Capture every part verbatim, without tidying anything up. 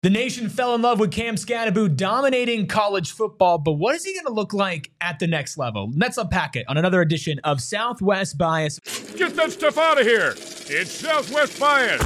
The nation fell in love with Cam Skattebo dominating college football, but what is he going to look like at the next level? Let's unpack it on another edition of Southwest Bias. Get that stuff out of here. It's Southwest Bias.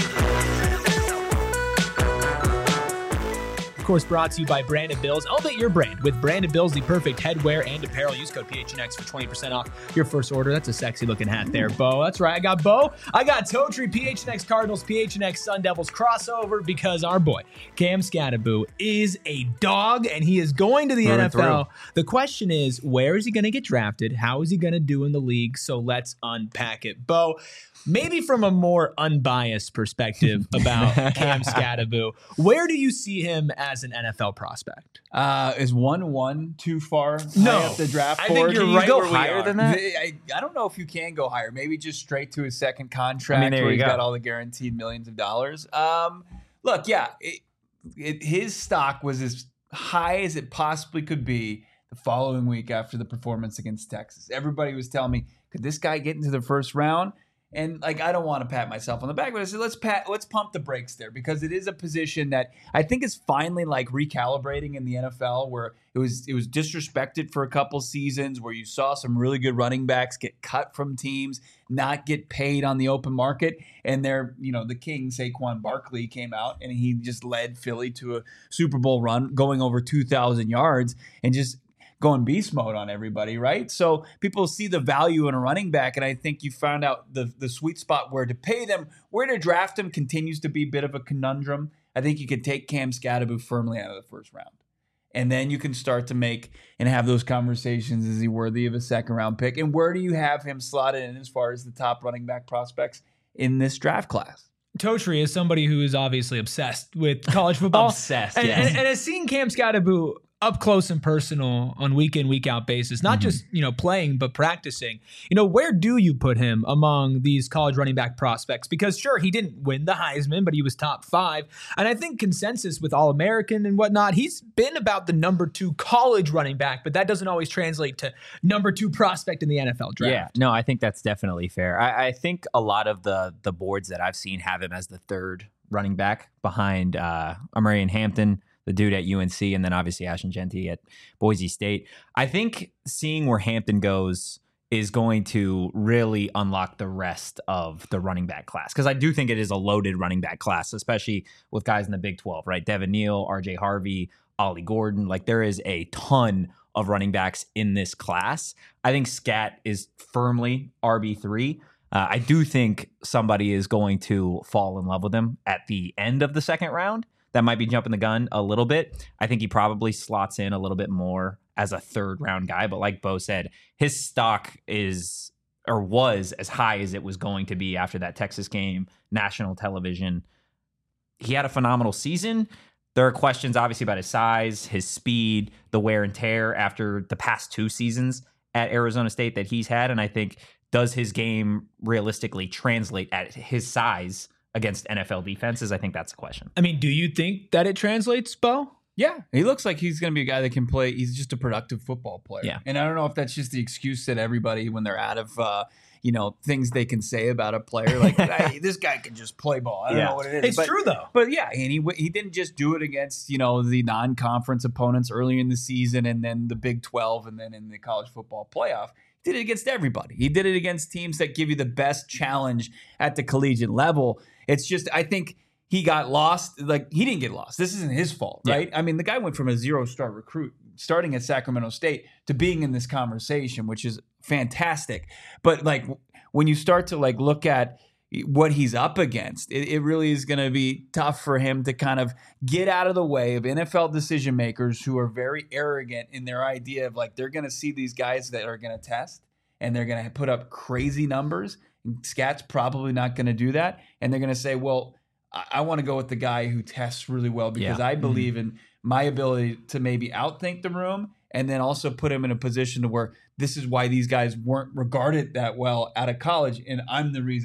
Of course, brought to you by Brandon Bills. Elevate your brand with Brandon Bills, the perfect headwear and apparel. Use code P H N X for twenty percent off your first order. That's a sexy looking hat there, Bo. That's right. I got Bo. I got Totri, P H N X Cardinals, P H N X Sun Devils crossover because our boy, Cam Skattebo, is a dog and he is going to the Through N F L. through. The question is, where is he going to get drafted? How is he going to do in the league? So let's unpack it. Bo, maybe from a more unbiased perspective about Cam Skattebo, where do you see him as an N F L prospect? Uh, is one one too far No. high up the draft I board? think you're Can you right go where we higher are. than that? I, I don't know if you can go higher. Maybe just straight to his second contract I mean, there where you he's go. got all the guaranteed millions of dollars. Um, look, yeah, it, it, his stock was as high as it possibly could be the following week after the performance against Texas. Everybody was telling me, could this guy get into the first round? And like, I don't want to pat myself on the back, but I said, let's pat, let's pump the brakes there because it is a position that I think is finally like recalibrating in the N F L, where it was it was disrespected for a couple seasons, where you saw some really good running backs get cut from teams, not get paid on the open market, and they're, you know, the king Saquon Barkley came out and he just led Philly to a Super Bowl run, going over two thousand yards and just going beast mode on everybody, right? So people see the value in a running back, and I think you found out the the sweet spot where to pay them, where to draft them continues to be a bit of a conundrum. I think you could take Cam Skattebo firmly out of the first round. And then you can start to make and have those conversations. Is he worthy of a second round pick? And where do you have him slotted in as far as the top running back prospects in this draft class? Totri is somebody who is obviously obsessed with college football. Obsessed, and, yes. and, and has seen Cam Skattebo up close and personal on week in, week out basis, not Mm-hmm. just, you know, playing, but practicing. You know, where do you put him among these college running back prospects? Because sure, he didn't win the Heisman, but he was top five. And I think consensus with All-American and whatnot, he's been about the number two college running back, but that doesn't always translate to number two prospect in the N F L draft. Yeah, no, I think that's definitely fair. I, I think a lot of the the boards that I've seen have him as the third running back behind uh, Amarian Hampton, the dude at U N C, and then obviously Ashton Genty at Boise State. I think seeing where Hampton goes is going to really unlock the rest of the running back class, because I do think it is a loaded running back class, especially with guys in the Big twelve, right? Devin Neal, R J Harvey, Ollie Gordon. Like, there is a ton of running backs in this class. I think Scat is firmly R B three. Uh, I do think somebody is going to fall in love with him at the end of the second round. That might be jumping the gun a little bit. I think he probably slots in a little bit more as a third round guy. But like Bo said, his stock is or was as high as it was going to be after that Texas game, national television. He had a phenomenal season. There are questions, obviously, about his size, his speed, the wear and tear after the past two seasons at Arizona State that he's had. And I think, does his game realistically translate at his size against N F L defenses? I think that's the question. I mean, do you think that it translates, Bo? Yeah, he looks like he's going to be a guy that can play. He's just a productive football player. Yeah. And I don't know if that's just the excuse that everybody, when they're out of, uh, you know, things they can say about a player, like, hey, this guy can just play ball. I don't Yeah. know what it is. It's but, true, though. But yeah, and he he didn't just do it against, you know, the non-conference opponents earlier in the season and then the Big twelve and then in the college football playoff. He did it against everybody. He did it against teams that give you the best challenge at the collegiate level. It's just, I think he got lost. Like, he didn't get lost. This isn't his fault, right? I mean, the guy went from a zero-star recruit starting at Sacramento State to being in this conversation, which is fantastic. But like, when you start to like look at what he's up against, it, it really is going to be tough for him to kind of get out of the way of N F L decision makers who are very arrogant in their idea of like, they're going to see these guys that are going to test and they're going to put up crazy numbers. And Scat's probably not going to do that. And they're going to say, well, I, I want to go with the guy who tests really well because Yeah. I believe in my ability to maybe outthink the room and then also put him in a position to where this is why these guys weren't regarded that well out of college. And I'm the reason that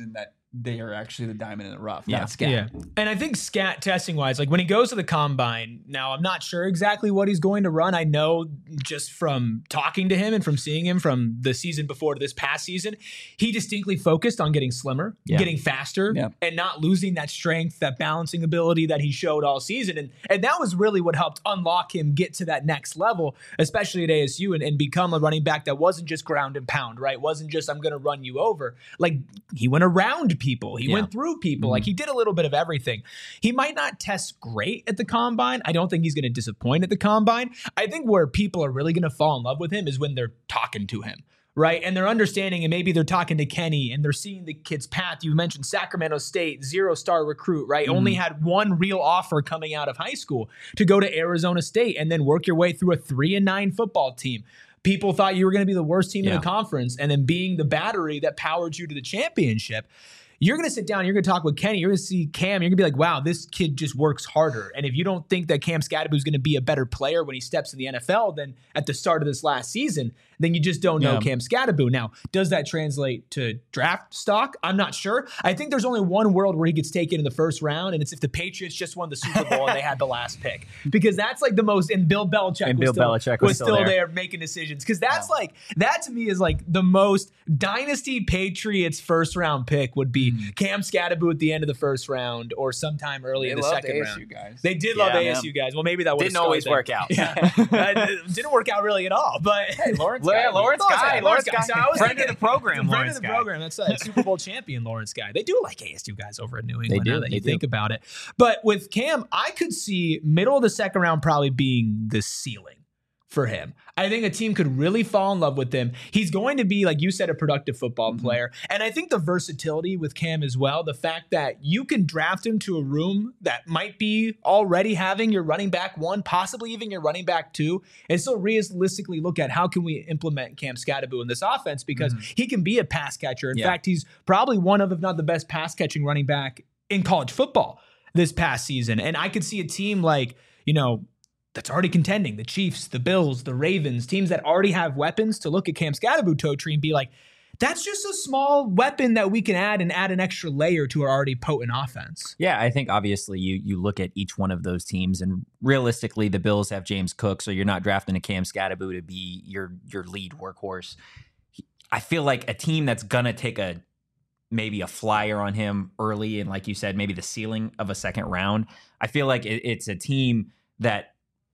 they are actually the diamond in the rough, Yeah. not Scat. Yeah. And I think scat testing wise, like when he goes to the combine, now I'm not sure exactly what he's going to run. I know just from talking to him and from seeing him from the season before to this past season, he distinctly focused on getting slimmer, Yeah. getting faster, Yeah. and not losing that strength, that balancing ability that he showed all season. And and that was really what helped unlock him get to that next level, especially at A S U, and, and become a running back that wasn't just ground and pound, right? Wasn't just I'm going to run you over. Like he went around people. He Yeah. went through people. Mm-hmm. Like he did a little bit of everything. He might not test great at the combine. I don't think he's going to disappoint at the combine. I think where people are really going to fall in love with him is when they're talking to him, right? And they're understanding, and maybe they're talking to Kenny and they're seeing the kid's path. You mentioned Sacramento State, zero star recruit, right? Mm-hmm. Only had one real offer coming out of high school to go to Arizona State and then work your way through a three and nine football team. People thought you were going to be the worst team in Yeah. the conference, and then being the battery that powered you to the championship. You're going to sit down, you're going to talk with Kenny, you're going to see Cam, you're going to be like, wow, this kid just works harder. And if you don't think that Cam Scadaboo is going to be a better player when he steps in the N F L than at the start of this last season, then you just don't know Yeah. Cam Scadaboo. Now, does that translate to draft stock? I'm not sure. I think there's only one world where he gets taken in the first round, and it's if the Patriots just won the Super Bowl and they had the last pick. Because that's like the most, and Bill Belichick And was Bill still, Belichick was was still still there. there making decisions. Because that's like, that to me is like the most dynasty Patriots first round pick would be Cam Scadaboo at the end of the first round or sometime early They in the loved second A S U round. guys. They did love Yeah. A S U guys. Well, maybe that would Didn't always work out. Yeah, Uh, it didn't work out really at all. But Lawrence Yeah, Guy. Lawrence Guy. Lawrence Guy. So I was Friend thinking- of the program, friend Lawrence of the Guy. program. That's a Super Bowl champion, Lawrence Guy. They do like A S U guys over in New England. do, Now that they you do. think about it. But with Cam, I could see middle of the second round probably being the ceiling for him. I think a team could really fall in love with him. He's going to be, like you said, a productive football Mm-hmm. player. And I think the versatility with Cam as well, the fact that you can draft him to a room that might be already having your running back one, possibly even your running back two, and still realistically look at how can we implement Cam Scadaboo in this offense, because he can be a pass catcher. In Yeah. fact, he's probably one of, if not the best pass catching running back in college football this past season. And I could see a team like, you know, that's already contending, the Chiefs, the Bills, the Ravens, teams that already have weapons, to look at Cam Scadaboo, Totri, and be like, that's just a small weapon that we can add and add an extra layer to our already potent offense. Yeah, I think obviously you you look at each one of those teams, and realistically, the Bills have James Cook, so you're not drafting a Cam Scadaboo to be your your lead workhorse. He- I feel like a team that's gonna take a maybe a flyer on him early, and like you said, maybe the ceiling of a second round. I feel like it, it's a team that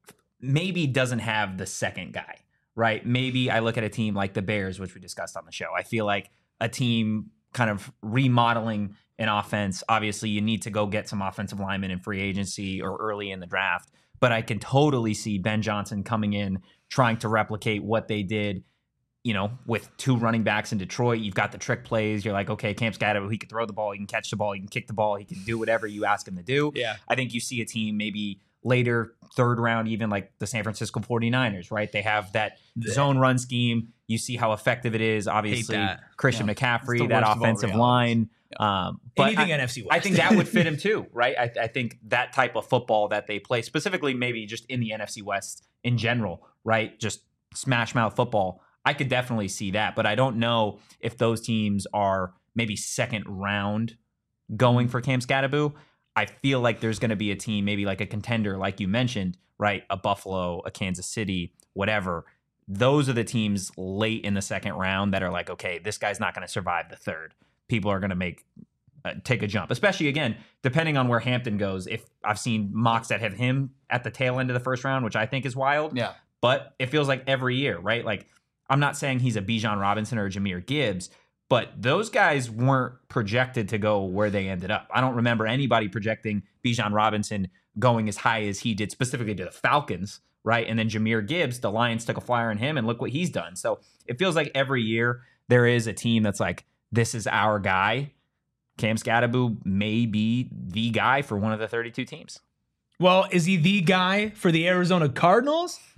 maybe doesn't have the second guy, right? Maybe I look at a team like the Bears, which we discussed on the show. I feel like a team kind of remodeling an offense. Obviously, you need to go get some offensive linemen in free agency or early in the draft. But I can totally see Ben Johnson coming in, trying to replicate what they did, you know, with two running backs in Detroit. You've got the trick plays. You're like, okay, Cam Scadaboo, he can throw the ball, he can catch the ball, he can kick the ball, he can do whatever you ask him to do. Yeah. I think you see a team maybe later, third round, even like the San Francisco forty-niners, right? They have that zone run scheme. You see how effective it is. Obviously, that. Christian It's McCaffrey, the that worst of all offensive realities. line. Um, but Anything I, N F C West. I think that would fit him too, right? I, I think that type of football that they play, specifically maybe just in the N F C West in general, right? Just smash mouth football. I could definitely see that, but I don't know if those teams are maybe second round going for Cam Scadaboo. I feel like there's going to be a team, maybe like a contender, like you mentioned, right? A Buffalo, a Kansas City, whatever. Those are the teams late in the second round that are like, okay, this guy's not going to survive the third. People are going to make uh, take a jump, especially again, depending on where Hampton goes. If I've seen mocks that have him at the tail end of the first round, which I think is wild. Yeah. But it feels like every year, right? Like, I'm not saying he's a Bijan Robinson or a Jahmyr Gibbs, but those guys weren't projected to go where they ended up. I don't remember anybody projecting Bijan Robinson going as high as he did, specifically to the Falcons, right? And then Jahmyr Gibbs, the Lions took a flyer on him, and look what he's done. So it feels like every year there is a team that's like, this is our guy. Cam Scadaboo may be the guy for one of the thirty-two teams. Well, is he the guy for the Arizona Cardinals?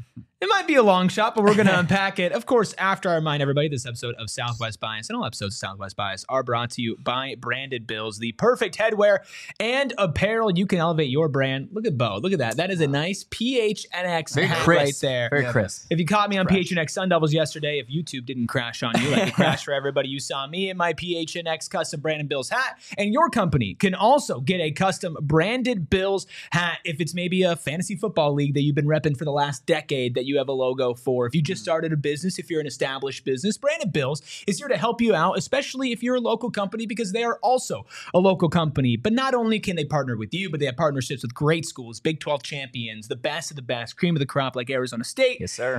It might be a long shot, but we're going to unpack it. Of course, after I remind everybody, this episode of Southwest Bias and all episodes of Southwest Bias are brought to you by Branded Bills, the perfect headwear and apparel. You can elevate your brand. Look at Bo. Look at that. That is a nice P H N X Very hat crisp. right there. Very Yeah, crisp. If you caught me on Fresh. P H N X Sun Devils yesterday, if YouTube didn't crash on you like it crashed for everybody, you saw me in my P H N X custom Branded Bills hat. And your company can also get a custom Branded Bills hat if it's maybe a fantasy football league that you've been repping for the last decade that you have a logo for. If you just started a business, if you're an established business, Branded Bills is here to help you out, especially if you're a local company, because they are also a local company. But not only can they partner with you, but they have partnerships with great schools, Big twelve champions, the best of the best, cream of the crop like Arizona State. Yes, sir.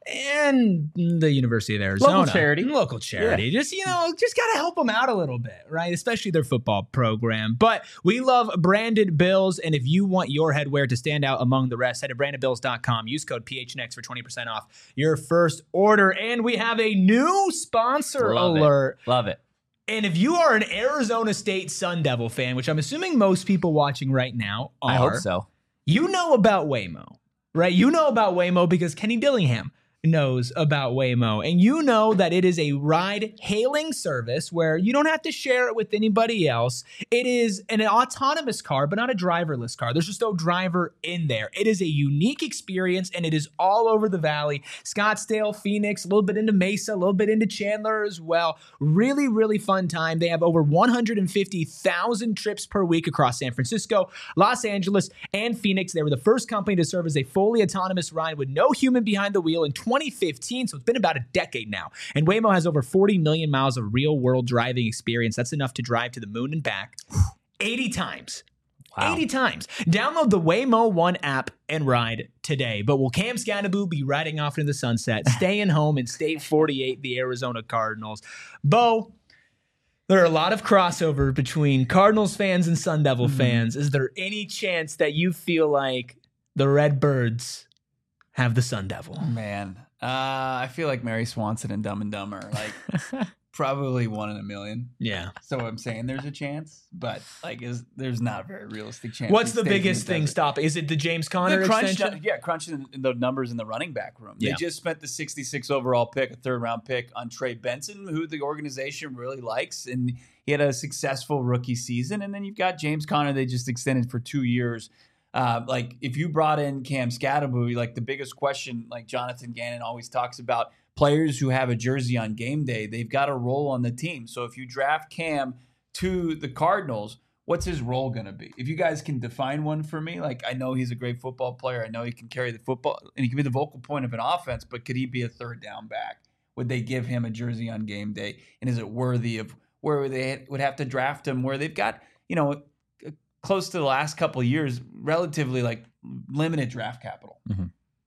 And the University of Arizona. Local charity. Local charity. Just, you know, just got to help them out a little bit, right? Especially their football program. But we love Branded Bills. And if you want your headwear to stand out among the rest, head to branded bills dot com. Use code P H N X for twenty percent off your first order. And we have a new sponsor Love alert. It. Love it. And if you are an Arizona State Sun Devil fan, which I'm assuming most people watching right now are, I hope so. you know about Waymo, right? You know about Waymo because Kenny Dillingham knows about Waymo. And you know that it is a ride-hailing service where you don't have to share it with anybody else. It is an autonomous car, but not a driverless car. There's just no driver in there. It is a unique experience, and it is all over the valley. Scottsdale, Phoenix, a little bit into Mesa, a little bit into Chandler as well. Really, really fun time. They have over one hundred fifty thousand trips per week across San Francisco, Los Angeles, and Phoenix. They were the first company to serve as a fully autonomous ride with no human behind the wheel in twenty fifteen, so it's been about a decade now. And Waymo has over forty million miles of real-world driving experience. That's enough to drive to the moon and back eighty times. Wow. eighty times. Download the Waymo One app and ride today. But will Cam Scannaboo be riding off into the sunset, staying home in State forty-eight, the Arizona Cardinals? Bo, there are a lot of crossover between Cardinals fans and Sun Devil mm-hmm. fans. Is there any chance that you feel like the Redbirds have the Sun Devil? Man, uh, I feel like Mary Swanson and Dumb and Dumber, like probably one in a million. Yeah. So I'm saying there's a chance, but like, is there's not a very realistic chance. What's he the stays in biggest thing desert. stopping? Is it the James Conner The crunch, extension? yeah, crunching the numbers in the running back room. Yeah. They just spent the sixty-six overall pick, a third round pick on Trey Benson, who the organization really likes, and he had a successful rookie season. And then you've got James Conner. They just extended for two years. Uh, like if you brought in Cam Scatterbury, like the biggest question, like Jonathan Gannon always talks about, players who have a jersey on game day, they've got a role on the team. So if you draft Cam to the Cardinals, what's his role going to be? If you guys can define one for me, like I know he's a great football player. I know he can carry the football and he can be the vocal point of an offense, but could he be a third down back? Would they give him a jersey on game day? And is it worthy of where they would have to draft him, where they've got, you know, close to the last couple of years, relatively like limited draft capital. Mm-hmm.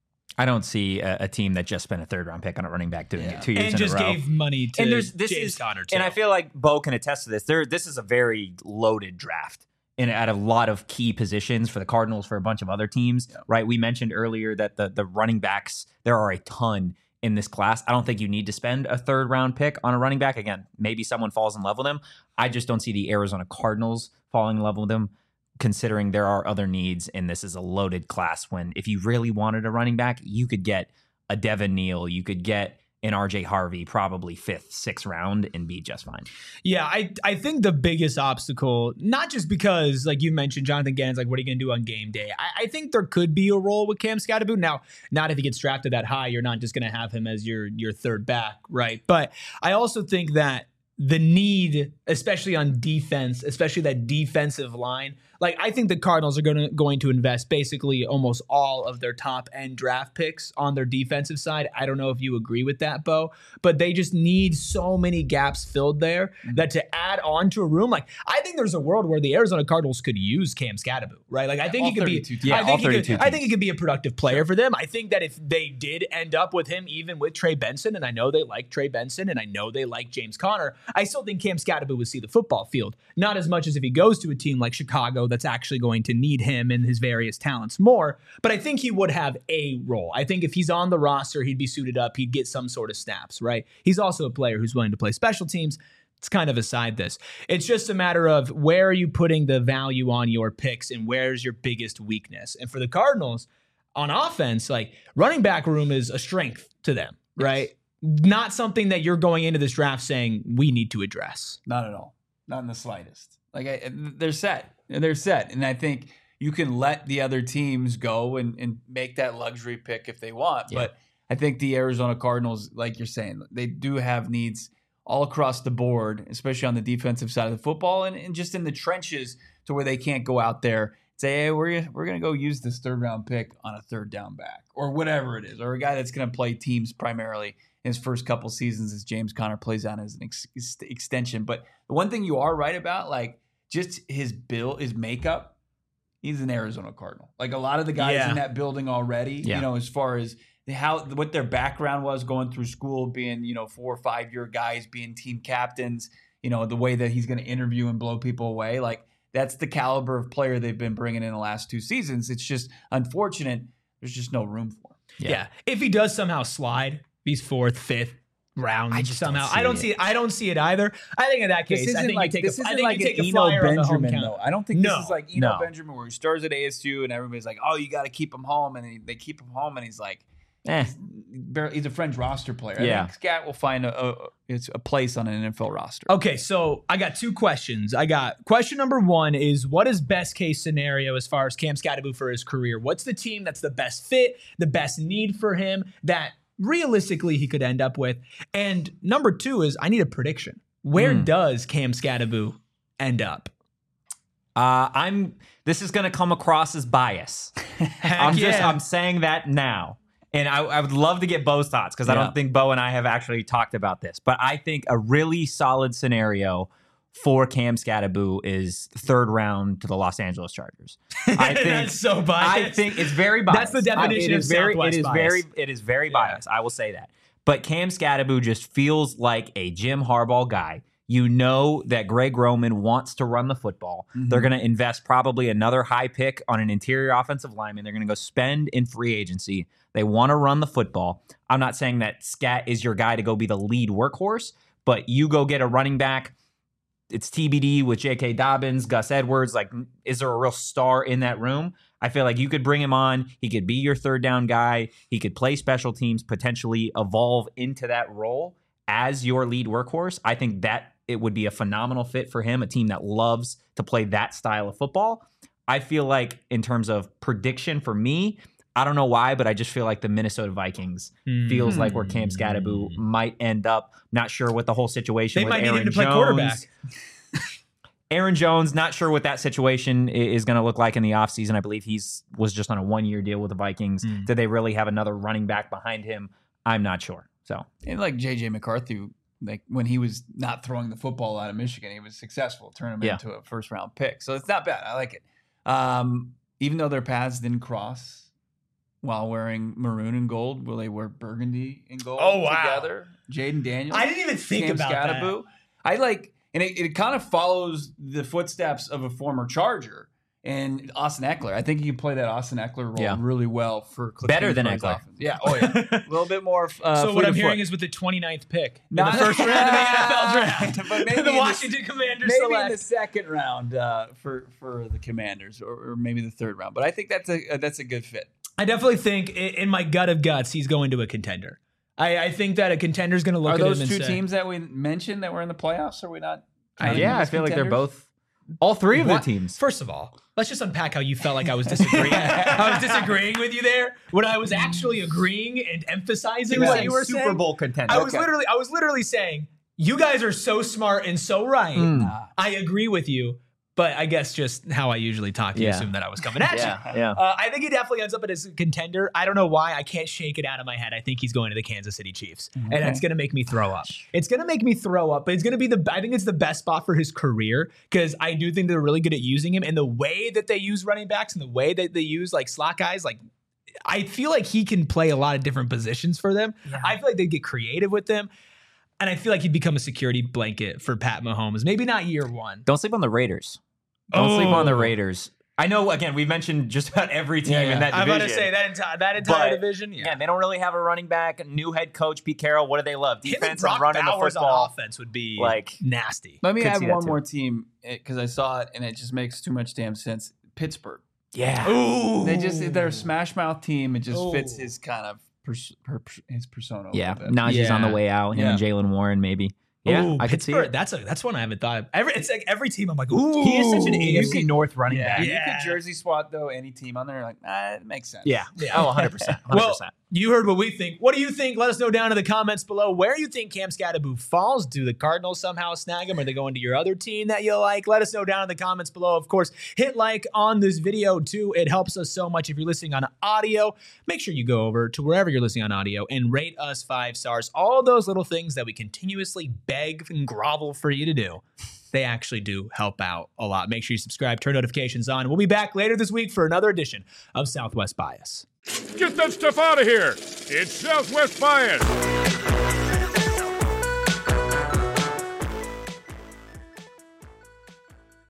I don't see a, a team that just spent a third round pick on a running back doing Yeah. it two years and in just a row. gave money to and there's, this James is, Conner, too. And I feel like Bo can attest to this. There, this is a very loaded draft. And at a lot of key positions for the Cardinals, for a bunch of other teams, yeah. right? We mentioned earlier that the the running backs, there are a ton in this class. I don't think you need to spend a third round pick on a running back. Again, maybe someone falls in love with him. I just don't see the Arizona Cardinals falling in love with him, considering there are other needs, and this is a loaded class. When if you really wanted a running back, you could get a Devin Neal, you could get an R J Harvey, probably fifth, sixth round, and be just fine. Yeah, I I think the biggest obstacle, not just because, like you mentioned, Jonathan Gannon's like, what are you going to do on game day? I, I think there could be a role with Cam Scatterbury. Now, not if he gets drafted that high, you're not just going to have him as your your third back, right? But I also think that the need, especially on defense, especially that defensive line, like I think the Cardinals are going to going to invest basically almost all of their top end draft picks on their defensive side. I don't know if you agree with that, Bo, but they just need so many gaps filled there mm-hmm. that to add on to a room, like I think there's a world where the Arizona Cardinals could use Cam Scatterbury, right? Like I think all he could be, yeah, I think all he could, teams. I think he could be a productive player sure. for them. I think that if they did end up with him, even with Trey Benson, and I know they like Trey Benson, and I know they like James Conner, I still think Cam Scatterbury would see the football field, not as much as if he goes to a team like Chicago that's actually going to need him and his various talents more, but I think he would have a role. I think if he's on the roster, he'd be suited up, he'd get some sort of snaps, right? He's also a player who's willing to play special teams. It's kind of aside this. It's just a matter of where are you putting the value on your picks and where's your biggest weakness. And for the Cardinals, on offense, like running back room is a strength to them, right? Not something that you're going into this draft saying we need to address. Not at all. Not in the slightest. Like I, they're set. They're set. And I think you can let the other teams go and, and make that luxury pick if they want. Yeah. But I think the Arizona Cardinals, like you're saying, they do have needs all across the board, especially on the defensive side of the football and, and just in the trenches to where they can't go out there and say, hey, we're, we're going to go use this third round pick on a third down back or whatever it is, or a guy that's going to play teams primarily in his first couple seasons as James Conner plays on as an ex- extension. But the one thing you are right about, like just his build, his makeup, he's an Arizona Cardinal. Like a lot of the guys Yeah. in that building already, Yeah. you know, as far as how what their background was going through school, being, you know, four or five year guys, being team captains, you know, the way that he's going to interview and blow people away. Like that's the caliber of player they've been bringing in the last two seasons. It's just unfortunate. There's just no room for him. Yeah. Yeah. If he does somehow slide, he's fourth, fifth round I just don't somehow. see I don't it. see it. I don't see it either. I think in that case, I think like, you take this a, I isn't think like you take an a Eno flyer on the home Benjamin, count. though. I don't think No. this is like Eno No. Benjamin where he stars at A S U and everybody's like, oh, you got to keep him home. And he, they keep him home and he's like, Eh. barely, he's a fringe roster player. I Yeah. think Scat will find a, a, it's a place on an N F L roster. Okay, so I got two questions. I got question number one is what is best case scenario as far as Cam Scatterbo for his career? What's the team that's the best fit, the best need for him that realistically he could end up with? And number two is I need a prediction. Where Mm. does Cam Scatterbo end up? Uh, I'm. This is going to come across as bias. Heck I'm just. yeah. I'm saying that now, and I, I would love to get Bo's thoughts because I Yeah. don't think Bo and I have actually talked about this. But I think a really solid scenario for Cam Scatterbo is third round to the Los Angeles Chargers. I think That's so biased. I think it's very biased. That's the definition I- it of is very, Southwest It is bias. very. It is very biased. I will say that. But Cam Scatterbo just feels like a Jim Harbaugh guy. You know that Greg Roman wants to run the football. Mhm. They're going to invest probably another high pick on an interior offensive lineman. They're going to go spend in free agency. They want to run the football. I'm not saying that Scat is your guy to go be the lead workhorse, but you go get a running back. It's T B D with J K. Dobbins, Gus Edwards. Like, is there a real star in that room? I feel like you could bring him on. He could be your third down guy. He could play special teams, potentially evolve into that role as your lead workhorse. I think that it would be a phenomenal fit for him, a team that loves to play that style of football. I feel like in terms of prediction for me, I don't know why, but I just feel like the Minnesota Vikings feels like where Cam Scatterbo might end up. Not sure what the whole situation They with might need Aaron him to play Jones. quarterback. Aaron Jones, not sure what that situation i- is going to look like in the offseason. I believe he's was just on a one-year deal with the Vikings. Hmm. Did they really have another running back behind him? I'm not sure. So And like J J McCarthy, like when he was not throwing the football out of Michigan, he was successful, turn him Yeah. into a first round pick. So it's not bad. I like it. Um, even though their paths didn't cross while wearing maroon and gold, will they wear burgundy and gold Oh, wow. together? Jaden Daniels. I didn't even think Cam about Scatterbo. I like, and it, it kind of follows the footsteps of a former Charger and Austin Eckler. I think you can play that Austin Eckler role Yeah. really well for Cliff Better than Kingsbury's Eckler. offense. Yeah. Oh yeah. a little bit more. Uh, So what fleet I'm of hearing foot. is with the twenty-ninth pick in Not- the first round of the N F L draft, But maybe the in the- Washington Commanders maybe select. in the second round uh, for for the Commanders, or, or maybe the third round. But I think that's a uh, that's a good fit. I definitely think i- in my gut of guts, he's going to a contender. I, I think that a contender's going to look Are at those him two and say, teams that we mentioned that were in the playoffs? Are we not? I- counting yeah, them I as feel like they're contenders? both. All three of What? the teams. First of all, let's just unpack how you felt like I was disagreeing. I was disagreeing with you there when I was actually agreeing and emphasizing what you were Super saying. Bowl contender. I was Okay. literally, I was literally saying, you guys are so smart and so right. Mm. Nah. I agree with you, but I guess just how I usually talk, you Yeah. assume that I was coming at you. Yeah, yeah. Uh, I think he definitely ends up as a contender. I don't know why. I can't shake it out of my head. I think he's going to the Kansas City Chiefs, and that's going to make me throw up. It's going to make me throw up, but it's going to be the. I think it's the best spot for his career because I do think they're really good at using him, and the way that they use running backs and the way that they use like slot guys, like. I feel like he can play a lot of different positions for them. I feel like they get creative with them. And I feel like he'd become a security blanket for Pat Mahomes. Maybe not year one. Don't sleep on the Raiders. Don't sleep on the Oh. Raiders. I know, again, we've mentioned just about every team Yeah, yeah. in that I'm division. about to say that entire that entire But, division. Yeah, Yeah, they don't really have a running back. New head coach, Pete Carroll. What do they love? him and Defense and Brock running the Bowers on football. offense would be Like- nasty. Let me Could add see that one too. more team because I saw it and it just makes too much damn sense. Pittsburgh. Yeah. Ooh. They just they're a smash mouth team. It just Ooh. fits his kind of pers- per- his persona. A Yeah. little bit. Najee's on the Yeah. way out. Him Yeah. and Jalen Warren, maybe. Yeah, Ooh, I could see Pittsburgh, it. That's a that's one I haven't thought of. Every it's like every team I'm like, ooh, He is such an A You F C could- North running Yeah, back. you Yeah. could jersey swap though any team on there. Like, ah, it makes sense. Yeah. Yeah. Oh, one hundred percent. one hundred percent. Well, you heard what we think. What do you think? Let us know down in the comments below where you think Cam Scatterbo falls. Do the Cardinals somehow snag him? Are they going to your other team that you like? Let us know down in the comments below. Of course, hit like on this video too. It helps us so much if you're listening on audio. Make sure you go over to wherever you're listening on audio and rate us five stars. All those little things that we continuously beg and grovel for you to do. They actually do help out a lot. Make sure you subscribe, turn notifications on. We'll be back later this week for another edition of Southwest Bias. Get that stuff out of here. It's Southwest Bias.